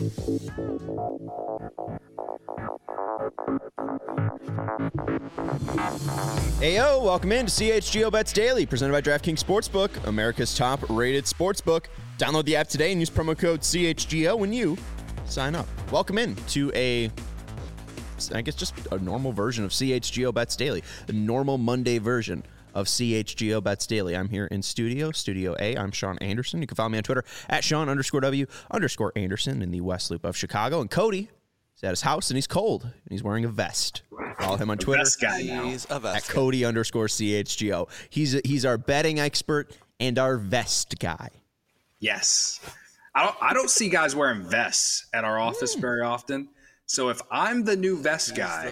Heyo, welcome in to CHGO Bets Daily, presented by DraftKings Sportsbook, America's top-rated sportsbook. Download the app today and use promo code CHGO when you sign up. Welcome in to just a normal version of CHGO Bets Daily, the normal Monday version of CHGO Bets Daily. I'm here in Studio A. I'm Sean Anderson. You can follow me on Twitter at Sean_W_Anderson in the West Loop of Chicago. And Cody is at his house and he's cold and he's wearing a vest. Follow him on Twitter. He's a vest at Cody_CHGO. He's our betting expert and our vest guy. Yes. I don't see guys wearing vests at our office very often. So if I'm the new vest guy,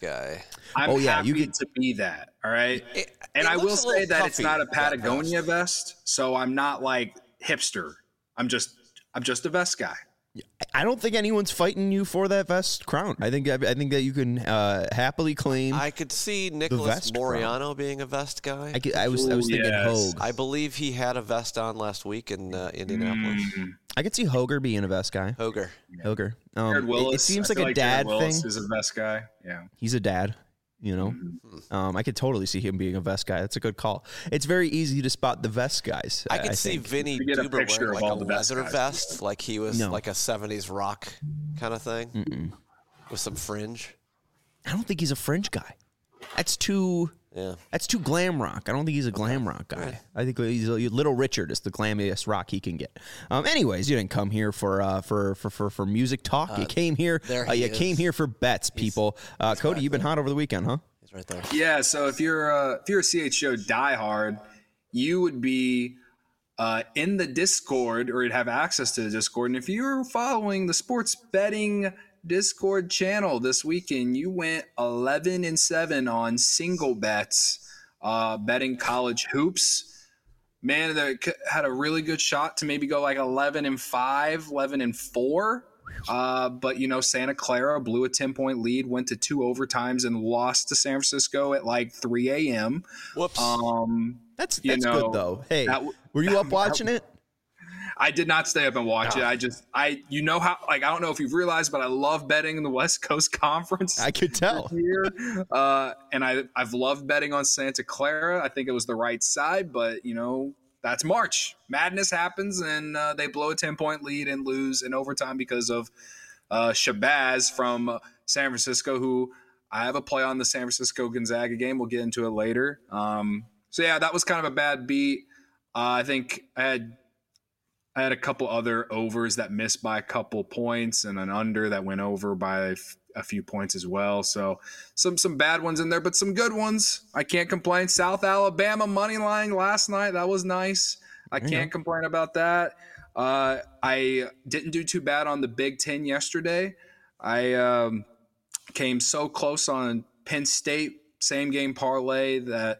I'm happy to be that. All right. And I will say that it's not a Patagonia vest. So I'm not like hipster. I'm just a vest guy. I don't think anyone's fighting you for that vest crown. I think that you can happily claim. I could see Nicholas Moriano being a vest guy. I was thinking Hogue. I believe he had a vest on last week in Indianapolis. I could see Hoger being a vest guy. Hoger. Jared Willis. It seems like a dad Jared Willis thing. is a vest guy. Yeah, he's a dad. You know, I could totally see him being a vest guy. That's a good call. It's very easy to spot the vest guys. I could see Vinny Duber wearing like a leather vest, like he was like a 70s rock kind of thing with some fringe. I don't think he's a fringe guy. That's too glam rock. I don't think he's a glam rock guy. Right. I think he's Little Richard is the glamiest rock he can get. Anyways, you didn't come here for music talk. You came here. Came here for bets, people. Cody, you've been hot over the weekend, huh? He's right there. Yeah. So if you're a CHGO diehard, you would be in the Discord, or you'd have access to the Discord. And if you're following the sports betting Discord channel this weekend, you went 11-7 on single bets, betting college hoops. Man, they had a really good shot to maybe go like 11-5, 11-4. But Santa Clara blew a 10-point lead, went to 2 overtimes, and lost to San Francisco at like 3 a.m. Whoops. That's good though. Hey, were you up watching it? I did not stay up and watch it. I don't know if you've realized, but I love betting in the West Coast Conference. I could tell. Here. And I've loved betting on Santa Clara. I think it was the right side, but that's March. Madness happens, and they blow a 10-point lead and lose in overtime because of Shabazz from San Francisco, who I have a play on the San Francisco Gonzaga game. We'll get into it later. So yeah, that was kind of a bad beat. I think I had a couple other overs that missed by a couple points, and an under that went over by a few points as well. So some bad ones in there, but some good ones. I can't complain. South Alabama money line last night. That was nice. I can't complain about that. I didn't do too bad on the Big Ten yesterday. I came so close on Penn State same game parlay that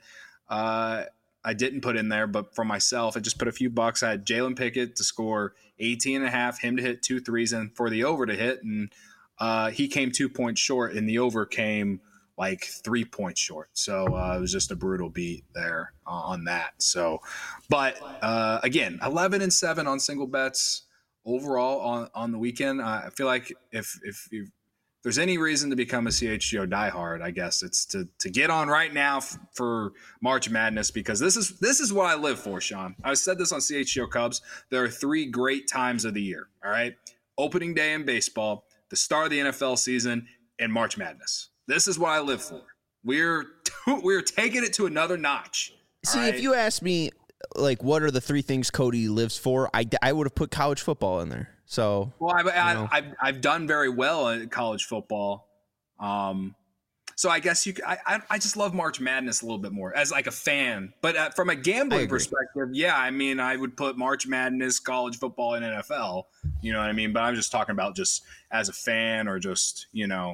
I didn't put in there, but for myself, I just put a few bucks. I had Jalen Pickett to score 18.5, him to hit 2 threes, and for the over to hit. And he came 2 points short, and the over came like 3 points short. So it was just a brutal beat there on that. So, but again, 11-7 on single bets overall on the weekend. I feel like if there's any reason to become a CHGO diehard, I guess it's to get on right now for March Madness, because this is what I live for, Sean. I said this on CHGO Cubs. There are 3 great times of the year, all right? Opening day in baseball, the start of the NFL season, and March Madness. This is what I live for. We're taking it to another notch. See, right? If you asked me, like, what are the 3 things Cody lives for, I would have put college football in there. So, well, I've done very well in college football. So I guess I just love March Madness a little bit more as like a fan. But from a gambling perspective, yeah, I mean, I would put March Madness, college football, and NFL. You know what I mean? But I'm just talking about just as a fan, or just,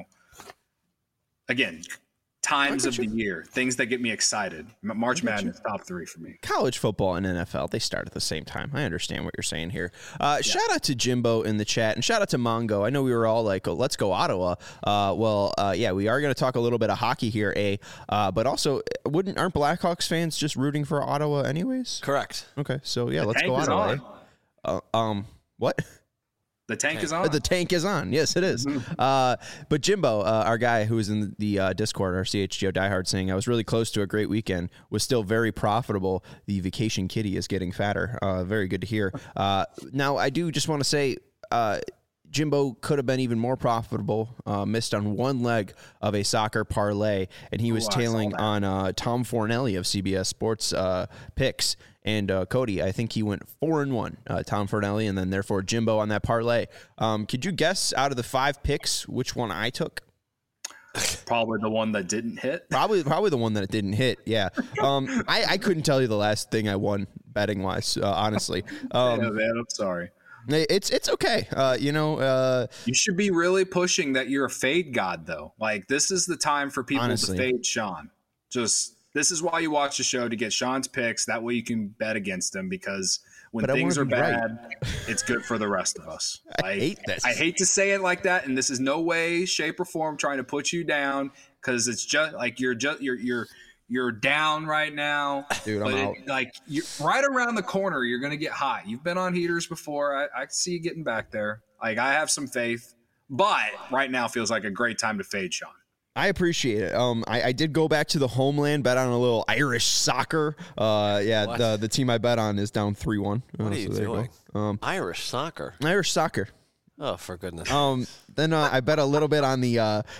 again, times of the year, things that get me excited. March Madness, top 3 for me. College football and NFL, they start at the same time. I understand what you're saying here. Shout out to Jimbo in the chat, and shout out to Mongo. I know we were all like, oh, let's go Ottawa. Yeah, we are going to talk a little bit of hockey here, but also, aren't Blackhawks fans just rooting for Ottawa anyways? Correct. Okay, so yeah, let's go Ottawa. What? The tank is on. The tank is on. Yes, it is. But Jimbo, our guy who was in the Discord, our CHGO diehard, saying I was really close to a great weekend, was still very profitable. The vacation kitty is getting fatter. Very good to hear. Now, I do just want to say Jimbo could have been even more profitable, missed on one leg of a soccer parlay, and he was tailing on Tom Fornelli of CBS Sports picks. And Cody, I think he went 4-1, Tom Fornelli, and then therefore Jimbo on that parlay. Could you guess out of the 5 picks which one I took? Probably the one that didn't hit. Probably the one that didn't hit. Yeah. I couldn't tell you the last thing I won betting wise, honestly. Yeah, man, I'm sorry. It's okay. You should be really pushing that you're a fade god, though. Like, this is the time for people to fade Sean. This is why you watch the show, to get Sean's picks. That way you can bet against him, because when things are bad, it's good for the rest of us. I hate this. I hate to say it like that, and this is no way, shape, or form trying to put you down, because it's just like you're down right now. Dude, I'm out. You're right around the corner, you're going to get hot. You've been on heaters before. I see you getting back there. Like, I have some faith, but right now feels like a great time to fade Sean. I appreciate it. I did go back to the homeland, bet on a little Irish soccer. The team I bet on is down 3-1. What are you doing? Irish soccer. Irish soccer. Oh, for goodness. Then I bet a little bit on the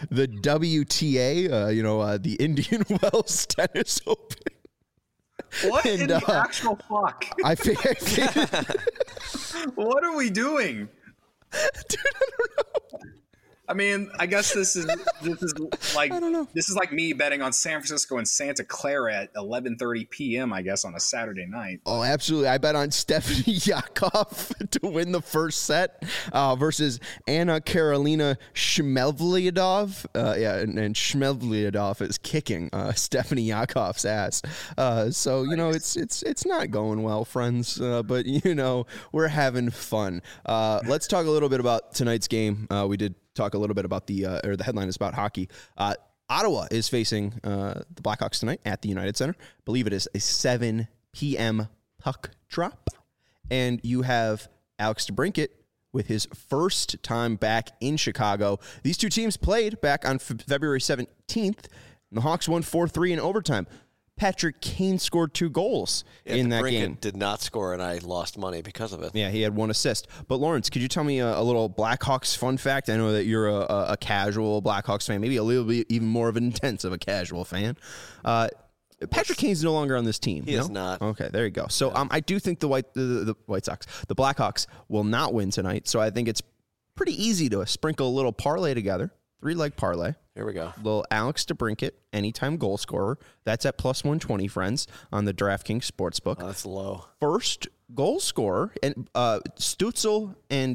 WTA, the Indian Wells Tennis Open. What in the actual fuck? I figured. What are we doing? Dude, I don't know. I mean, I guess this is like I don't know. This is like me betting on San Francisco and Santa Clara at 11:30 p.m. I guess on a Saturday night. Oh, absolutely! I bet on Stephanie Yakov to win the first set versus Anna Karolina Shmevlyadov. And Shmevlyadov is kicking Stephanie Yakov's ass. So it's not going well, friends. But we're having fun. Let's talk a little bit about tonight's game. We did talk a little bit about the headline is about hockey. Ottawa is facing the Blackhawks tonight at the United Center. I believe it is a 7 p.m. puck drop. And you have Alex DeBrincat with his first time back in Chicago. These two teams played back on February 17th, and the Hawks won 4-3 in overtime. Patrick Kane scored 2 goals in that game. Did not score, and I lost money because of it. Yeah, he had 1 assist. But Lawrence, could you tell me a little Blackhawks fun fact? I know that you're a casual Blackhawks fan, maybe a little bit even more of an intense of a casual fan. Patrick Kane's no longer on this team. He is not. Okay, there you go. So I do think the White Sox, the Blackhawks, will not win tonight. So I think it's pretty easy to sprinkle a little parlay together. 3-leg parlay. Here we go. Little Alex DeBrincat, anytime goal scorer. That's at plus 120, friends, on the DraftKings Sportsbook. Oh, that's low. First goal scorer, and Stutzel and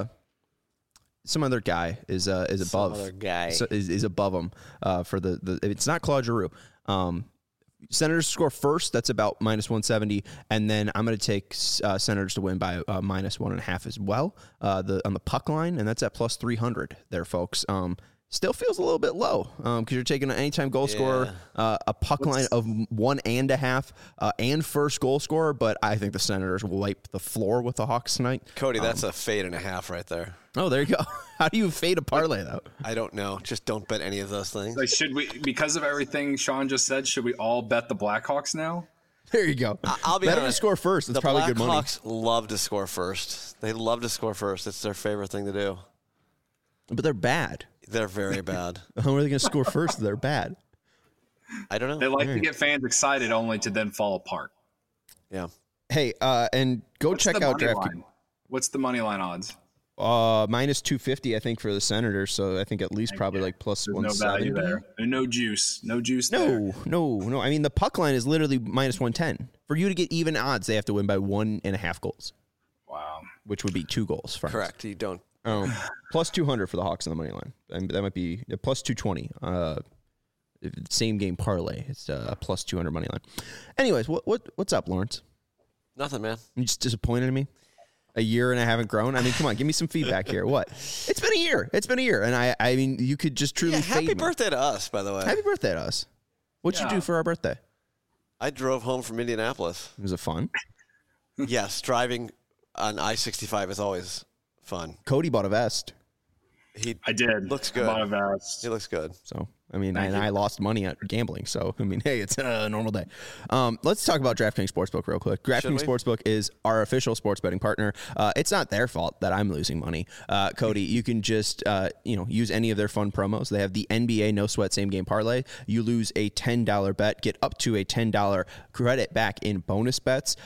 some other guy is above. Some other guy is above him for the. It's not Claude Giroux. Senators score first. That's about minus 170, and then I'm going to take Senators to win by minus 1.5 as well. On the puck line, and that's at plus 300 there, folks. Still feels a little bit low because you're taking an anytime goal scorer, a puck line of 1.5, and first goal scorer. But I think the Senators will wipe the floor with the Hawks tonight. Cody, that's a fade and a half right there. Oh, there you go. How do you fade a parlay, though? I don't know. Just don't bet any of those things. Like, should we, because of everything Sean just said, should we all bet the Blackhawks now? There you go. I'll be better honest, to score first. It's probably good money. The Blackhawks love to score first. They love to score first. It's their favorite thing to do. But they're bad. They're very bad. How are they going to score first? They're bad. I don't know. They like to get fans excited only to then fall apart. Yeah. Hey, and check out DraftKings. What's the money line odds? Minus 250, I think, for the Senators. So I think at least probably like plus 170. No value there. No juice. No juice there. No. I mean, the puck line is literally minus 110. For you to get even odds, they have to win by 1.5 goals. Wow. Which would be 2 goals. Friends. Correct. You don't. Plus 200 for the Hawks on the money line. And that might be plus 220. Same game parlay. It's a plus 200 money line. Anyways, what's up, Lawrence? Nothing, man. You just disappointed in me? A year and I haven't grown? I mean, come on, give me some feedback here. What? It's been a year. And I mean, you could just truly fade happy birthday to us, by the way. Happy birthday to us. What'd you do for our birthday? I drove home from Indianapolis. Was it fun? Yes, driving on I-65 is always fun. Cody bought a vest. I did. Looks good. Bought a vest. He looks good. So, I mean, I lost money at gambling. So, I mean, hey, it's a normal day. Let's talk about DraftKings Sportsbook real quick. DraftKings Sportsbook is our official sports betting partner. It's not their fault that I'm losing money. Cody, you can just, use any of their fun promos. They have the NBA No Sweat Same Game Parlay. You lose a $10 bet, get up to a $10 credit back in bonus bets.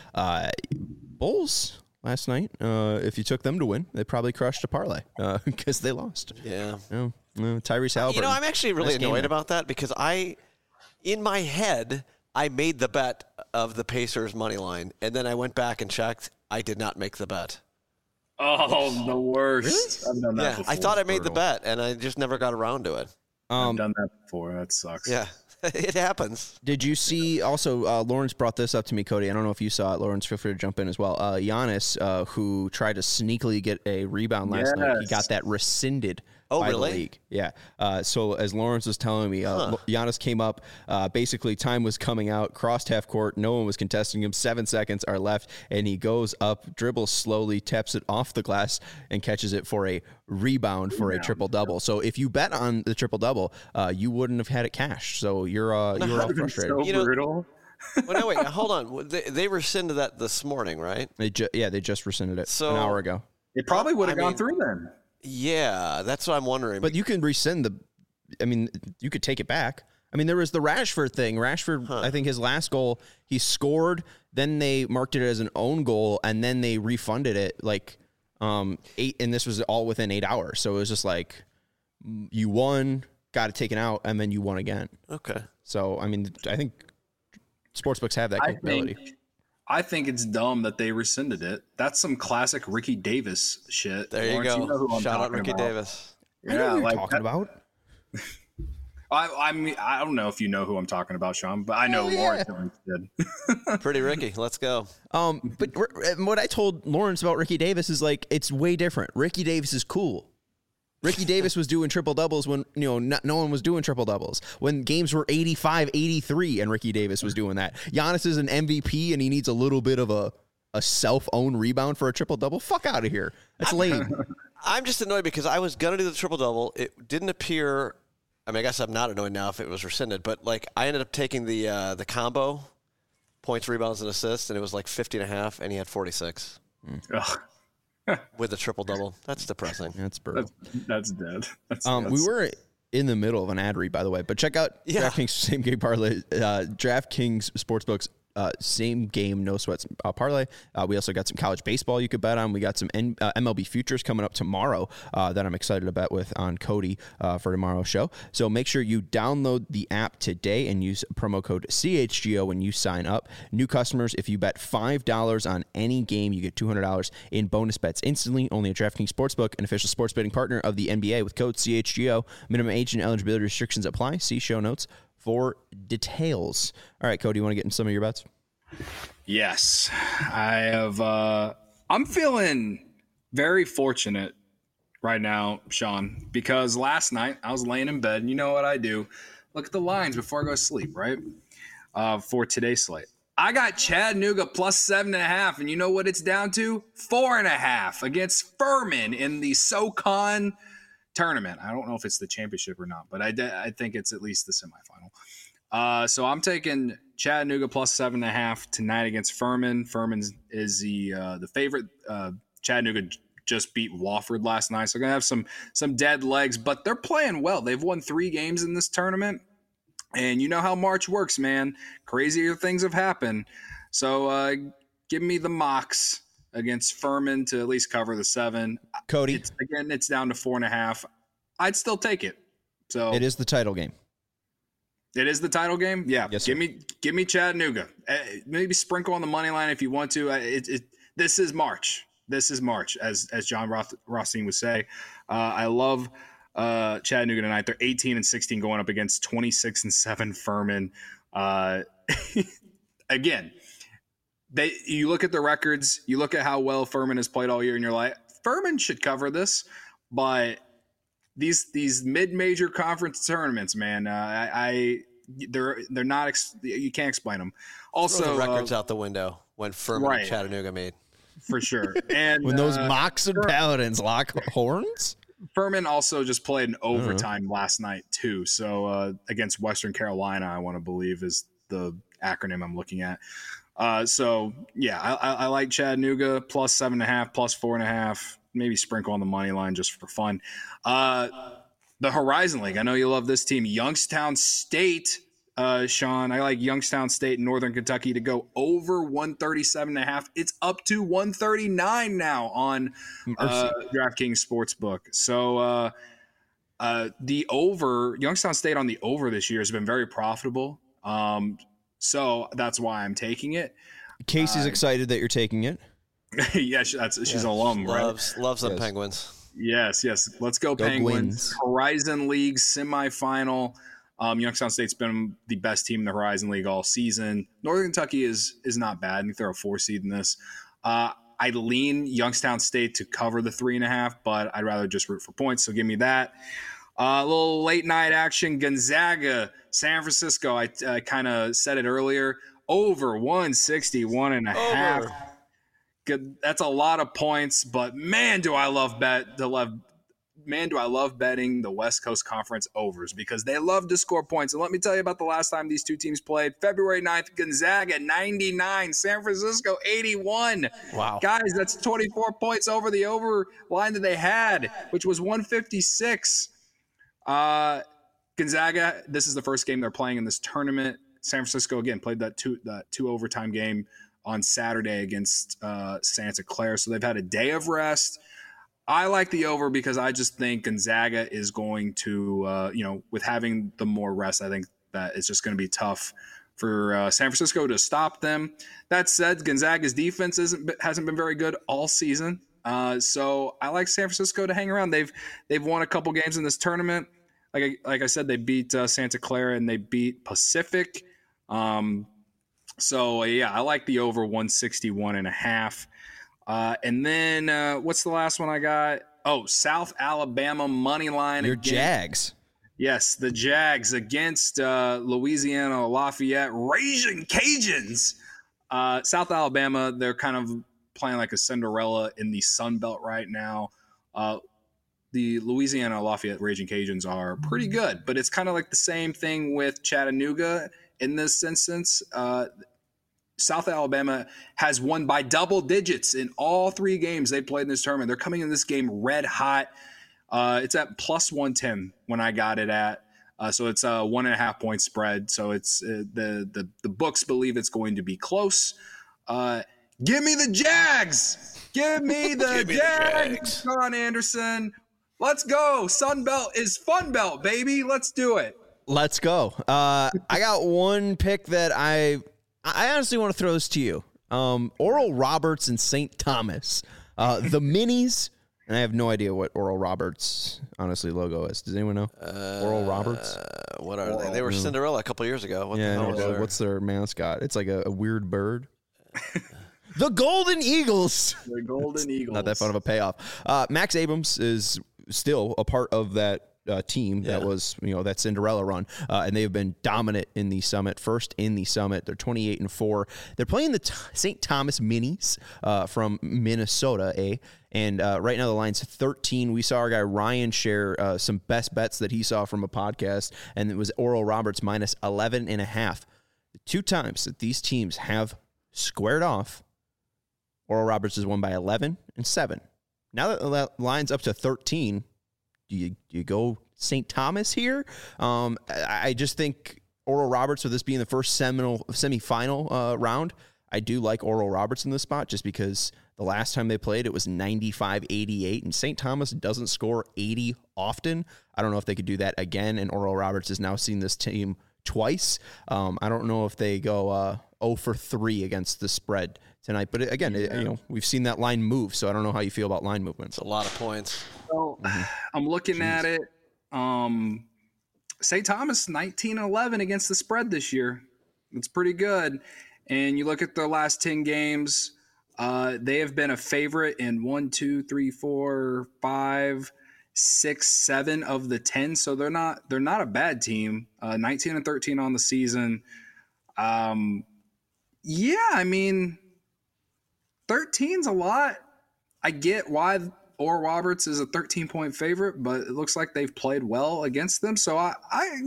Bulls last night, if you took them to win, they probably crushed a parlay because they lost. Yeah. Tyrese Halliburton. I'm actually really annoyed about that because in my head, I made the bet of the Pacers money line, and then I went back and checked. I did not make the bet. Oh, the worst. Really? I've done that before. I thought I made the bet, and I just never got around to it. I've done that before. That sucks. Yeah. It happens. Did you see also, Lawrence brought this up to me, Cody. I don't know if you saw it. Lawrence, feel free to jump in as well. Giannis, who tried to sneakily get a rebound last night, he got that rescinded by the league. Yeah. So as Lawrence was telling me, Giannis came up, basically time was coming out, crossed half court, no one was contesting him, 7 seconds are left, and he goes up, dribbles slowly, taps it off the glass, and catches it for a rebound for a triple-double. So if you bet on the triple-double, you wouldn't have had it cashed. So you're all frustrated. So brutal. Well, no, wait, hold on. They rescinded that this morning, right? They just rescinded it an hour ago. It probably would have gone through then. Yeah, that's what I'm wondering. But you can rescind you could take it back. I mean, there was the Rashford thing. Rashford, I think his last goal, he scored, then they marked it as an own goal, and then they refunded it and this was all within 8 hours. So it was just like, you won, got it taken out, and then you won again. Okay. So, I mean, I think sportsbooks have that capability. I think it's dumb that they rescinded it. That's some classic Ricky Davis shit. There you go. You know Shout out Ricky Davis. Yeah, I know who you're talking about. I mean, I don't know if you know who I'm talking about, Sean, but I know Lawrence did. Pretty Ricky. Let's go. But what I told Lawrence about Ricky Davis is it's way different. Ricky Davis is cool. Ricky Davis was doing triple doubles when no one was doing triple doubles. When games were 85-83 and Ricky Davis was doing that. Giannis is an MVP and he needs a little bit of a self-owned rebound for a triple double. Fuck out of here. That's lame. I'm just annoyed because I was gonna do the triple double. It didn't appear. I mean, I guess I'm not annoyed now if it was rescinded, but I ended up taking the combo points, rebounds, and assists, and it was 50.5, and he had 46. Ugh. With a triple-double. That's depressing. That's brutal. That's dead. We were in the middle of an ad read, by the way, but check out DraftKings Same Game Parlay, DraftKings Sportsbook's same game, no sweats parlay. We also got some college baseball you could bet on. We got some MLB futures coming up tomorrow that I'm excited to bet with on Cody for tomorrow's show. So make sure you download the app today and use promo code CHGO when you sign up. New customers, if you bet $5 on any game, you get $200 in bonus bets instantly. Only at DraftKings Sportsbook, an official sports betting partner of the NBA with code CHGO. Minimum age and eligibility restrictions apply. See show notes for details. All right, Cody, you want to get in some of your bets? Yes. I have I'm feeling very fortunate right now, Sean, because last night I was laying in bed and you know what I do? Look at the lines before I go to sleep, right? For today's slate. I got Chattanooga plus 7.5, and you know what it's down to? 4.5 against Furman in the SoCon tournament. I don't know if it's the championship or not, but I think it's at least the semifinal. So I'm taking Chattanooga plus 7.5 tonight against Furman. Furman is the favorite. Chattanooga just beat Wofford last night, so they're gonna have some dead legs, but they're playing well. They've won 3 games in this tournament, and you know how March works, man. Crazier things have happened. So give me the Mocs against Furman to at least cover the 7. Cody, it's down to 4.5. I'd still take it. So it is the title game. It is the title game. Yeah. Yes, give me Chattanooga. Maybe sprinkle on the money line if you want to. This is March. This is March, as John Rothstein would say. I love Chattanooga tonight. They're 18-16 going up against 26-7 Furman. Again. You look at the records, you look at how well Furman has played all year, and you're like, Furman should cover this. But these mid-major conference tournaments, man, they're not. You can't explain them. Also, throw the records out the window when Furman and Chattanooga made. for sure. And when those Moxon Paladins lock horns. Furman also just played an overtime last night too. So against Western Carolina, I want to believe is the acronym I'm looking at. So yeah, I like Chattanooga plus 7.5, plus 4.5. Maybe sprinkle on the money line just for fun. The Horizon League. I know you love this team. Youngstown State, Sean. I like Youngstown State and Northern Kentucky to go over 137.5. It's up to 139 now on DraftKings Sportsbook. So the over, Youngstown State on the over this year has been very profitable. So that's why I'm taking it. Casey's excited that you're taking it. Yeah, she's an alum, loves them Yes. Penguins. Yes. Let's go Penguins. Gwins. Horizon League semifinal. Youngstown State's been the best team in the Horizon League all season. Northern Kentucky is not bad. I think they're a 4 seed in this. I lean Youngstown State to cover the 3.5, but I'd rather just root for points. So give me that. A little late night action. Gonzaga, San Francisco. I kind of said it earlier. Over 161.5. Good. That's a lot of points, but man, do I love betting the West Coast Conference overs because they love to score points. And let me tell you about the last time these two teams played. February 9th, Gonzaga 99, San Francisco 81. Wow. Guys, that's 24 points over the over line that they had, which was 156. Gonzaga, this is the first game they're playing in this tournament. San Francisco, again, played that two overtime game on Saturday against Santa Clara. So they've had a day of rest. I like the over because I just think Gonzaga is going to, with having the more rest, I think that it's just going to be tough for San Francisco to stop them. That said, Gonzaga's defense hasn't been very good all season. So I like San Francisco to hang around. They've won a couple games in this tournament. Like I said, they beat Santa Clara and they beat Pacific. So, yeah, I like the over 161.5. And then what's the last one I got? Oh, South Alabama money line. Your Jags. Yes, the Jags against Louisiana Lafayette Raging Cajuns. South Alabama, they're kind of playing like a Cinderella in the Sun Belt right now. The Louisiana Lafayette Raging Cajuns are pretty good, but it's kind of like the same thing with Chattanooga in this instance. South Alabama has won by double digits in all 3 games they played in this tournament. They're coming in this game red hot. It's at plus 110 when I got it at. So it's a 1.5 point spread. So it's the books believe it's going to be close. Give me the Jags. Give me the Jags. Sean Anderson. Let's go. Sun Belt is Fun Belt, baby. Let's do it. Let's go. I got one pick that I honestly want to throw this to you. Oral Roberts and St. Thomas. The minis, and I have no idea what Oral Roberts, honestly, logo is. Does anyone know? Oral Roberts? What are they? They were Cinderella a couple years ago. What the hell was their... What's their mascot? It's like a weird bird. The Golden Eagles. The Golden Eagles. Not that fun of a payoff. Max Abrams is still a part of that team that was, that Cinderella run. And they have been dominant in the Summit. First in the Summit. They're 28-4. They're playing the St. Thomas Minis from Minnesota, And right now the line's 13. We saw our guy Ryan share some best bets that he saw from a podcast, and it was Oral Roberts minus 11.5. The 2 times that these teams have squared off, Oral Roberts has won by 11 and 7. Now that the line's up to 13, do you go St. Thomas here? I just think Oral Roberts, with this being the first semifinal round, I do like Oral Roberts in this spot just because the last time they played, it was 95-88, and St. Thomas doesn't score 80 often. I don't know if they could do that again, and Oral Roberts has now seen this team twice. I don't know if they go 0 for 3 against the spread tonight. But again, we've seen that line move, so I don't know how you feel about line movements. It's a lot of points. So I'm looking at it. St. Thomas 19-11 against the spread this year. It's pretty good. And you look at their last 10 games, they have been a favorite in 1, 2, 3, 4, 5, 6, 7 of the 10. So they're not a bad team. 19-13 on the season. 13's a lot. I get why Oral Roberts is a 13-point favorite, but it looks like they've played well against them. So I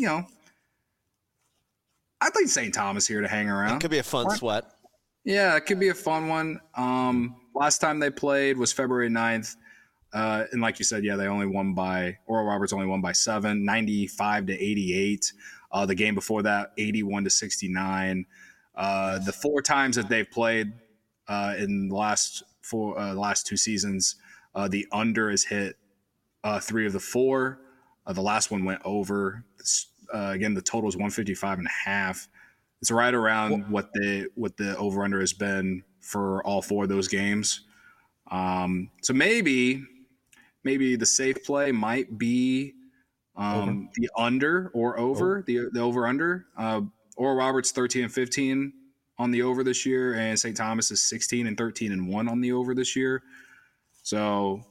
think St. Thomas here to hang around. It could be a fun sweat. Yeah, it could be a fun one. Last time they played was February 9th. And like you said, yeah, Oral Roberts only won by 7, 95-88. The game before that, 81-69. The 4 times that they've played in the last 2 seasons, the under has hit 3 of the 4. The last one went over. Again, the total is 155.5. It's right around what the over under has been for all 4 of those games. So maybe the safe play might be the under or over, the over under. Oral Roberts 13-15 on the over this year, and St. Thomas is 16-13-1 on the over this year. So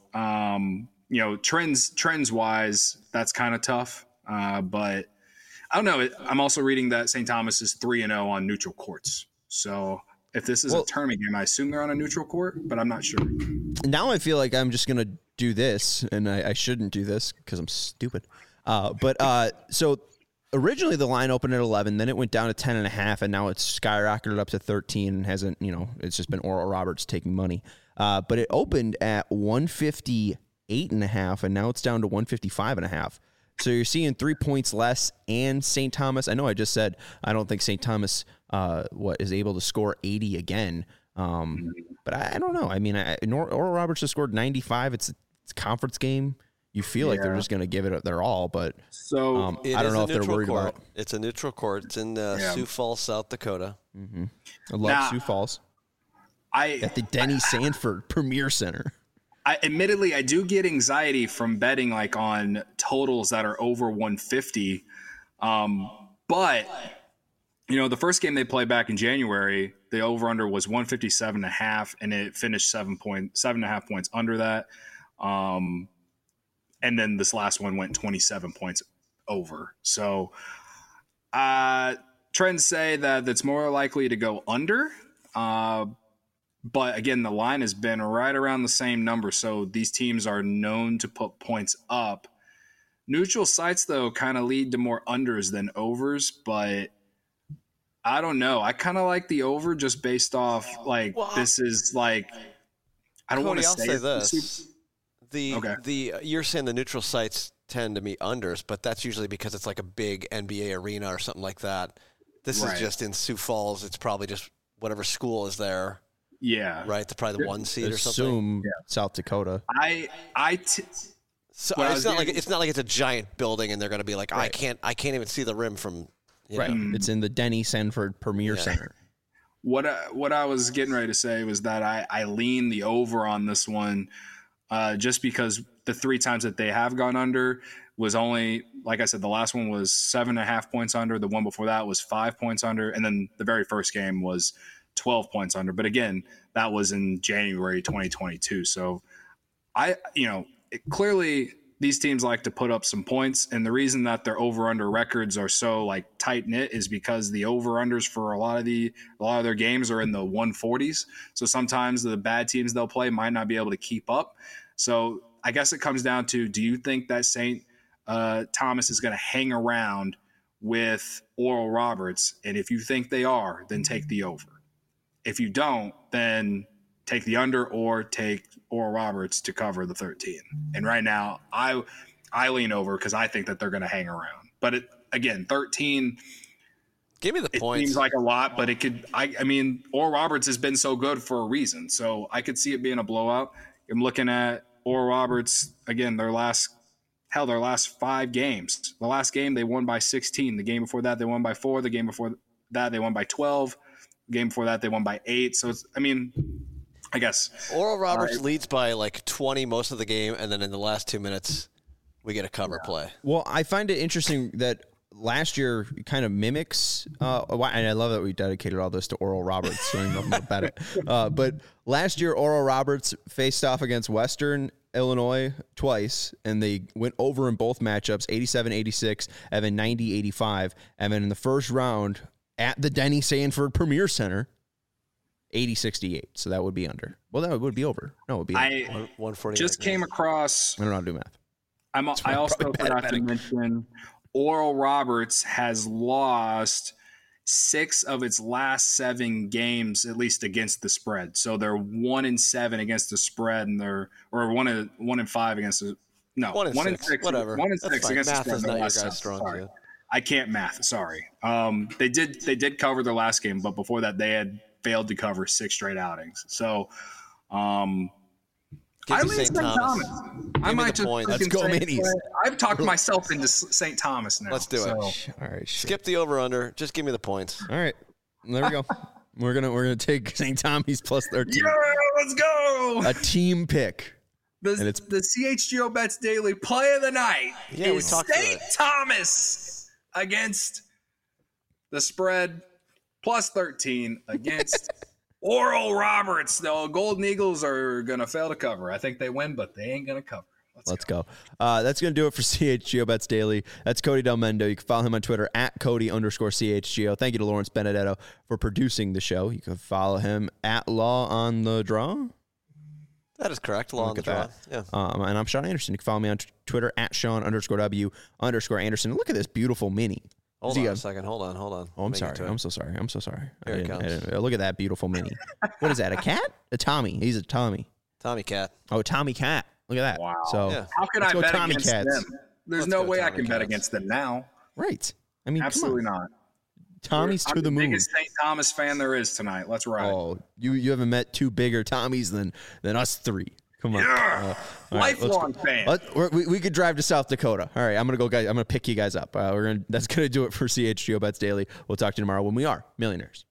trends wise, that's kind of tough. But I don't know. I'm also reading that St. Thomas is 3-0 on neutral courts. So if this is a tournament game, I assume they're on a neutral court, but I'm not sure. Now I feel like I'm just going to do this, and I shouldn't do this because I'm stupid. So originally the line opened at 11, then it went down to 10.5, and now it's skyrocketed up to 13 and hasn't, it's just been Oral Roberts taking money. But it opened at 158.5, and now it's down to 155.5. So you're seeing 3 points less, and St. Thomas. I know I just said I don't think St. Thomas is able to score 80 again. But I don't know. I mean, Oral Roberts just scored 95. It's a conference game. You feel like they're just going to give it their all, but so I don't know if they're worried about it. It's a neutral court. It's in Sioux Falls, South Dakota. Mm-hmm. I love Sioux Falls. At the Denny Sanford Premier Center. Admittedly, I do get anxiety from betting like on totals that are over 150. But the first game they played back in January, the over/under was 157.5, and it finished 7.5 points under that. And then this last one went 27 points over. So trends say that it's more likely to go under. But again, the line has been right around the same number. So these teams are known to put points up. Neutral sites, though, kind of lead to more unders than overs. But I don't know. I kind of like the over just based off this is like, I don't want to say this. You're saying the neutral sites tend to be unders, but that's usually because it's like a big NBA arena or something like that. This is just in Sioux Falls. It's probably just whatever school is there. Yeah. Right. They're probably the 1 seed or something. Assume South Dakota. So it's not like it's a giant building and they're going to be like, I can't even see the rim from. Right. It's in the Denny Sanford Premier Center. What I was getting ready to say was that I lean the over on this one, just because the 3 times that they have gone under was only, like I said, the last one was 7.5 points under. The one before that was 5 points under, and then the very first game was 12 points under. But again, that was in January 2022. So clearly these teams like to put up some points. And the reason that their over-under records are so tight knit is because the over-unders for a lot of their games are in the 140s. So sometimes the bad teams they'll play might not be able to keep up. So I guess it comes down to, do you think that St. Thomas is going to hang around with Oral Roberts? And if you think they are, then take the over. If you don't, then take the under or take Oral Roberts to cover the 13. And right now, I lean over because I think that they're going to hang around. But again, 13. Give me the points. It seems like a lot, but it could. I mean, Oral Roberts has been so good for a reason, so I could see it being a blowout. I'm looking at Oral Roberts again. Their last 5 games. The last game they won by 16. The game before that they won by 4. The game before that they won by 12. The game before that they won by 8. So I guess Oral Roberts leads by 20 most of the game, and then in the last 2 minutes we get a cover play. Well, I find it interesting that last year kind of mimics, and I love that we dedicated all this to Oral Roberts, so I don't know more about it. But last year, Oral Roberts faced off against Western Illinois twice, and they went over in both matchups, 87-86, and then 90-85. And then in the first round at the Denny Sanford Premier Center, 80-68. So that would be under. Well, that would be over. No, it would be under. 140. Just came across. I don't know how to do math. I also forgot to mention Oral Roberts has lost 6 of its last 7 games, at least against the spread. So they're 1-7 against the spread, and they're 1-5 against the 1-6, whatever. 1-6 against math the spread. is not your guy's strong suit. I can't math. Sorry. They did cover their last game, but before that they had failed to cover 6 straight outings. So, I lean St. Thomas. I might just let's go minis. I've talked myself into St. Thomas now. Let's do it. All right, skip the over under. Just give me the points. All right, there we go. we're gonna take St. Thomas plus 13. Yeah, let's go. A team pick. The CHGO Bets Daily play of the night is St. Thomas against the spread plus 13 against Oral Roberts. The Golden Eagles are going to fail to cover. I think they win, but they ain't going to cover. Let's go. That's going to do it for CHGO Bets Daily. That's Cody Del Mendo. You can follow him on Twitter at Cody_CHGO. Thank you to Lawrence Benedetto for producing the show. You can follow him at Law on the Draw. That is correct. Law on the Draw. Yeah. And I'm Sean Anderson. You can follow me on Twitter at Sean_W_Anderson. Look at this beautiful mini. Hold on a second. Hold on. Oh, I'm sorry. I'm so sorry. Here it comes. Look at that beautiful mini. What is that? A cat? A Tommy. He's a Tommy. Tommy Cat. Oh, Tommy Cat. Look at that. Wow. So how can I bet Tommy against Cats. them? There's no way I can bet against them now. Right. I mean, absolutely not. Tommy's to the moon. I'm the biggest St. Thomas fan there is tonight. Let's ride. Oh, you haven't met 2 bigger Tommies than us 3. Come on. Yeah. Lifelong fan. We could drive to South Dakota. All right, I'm going to go, guys. I'm going to pick you guys up. That's going to do it for CHGO Bets Daily. We'll talk to you tomorrow when we are millionaires.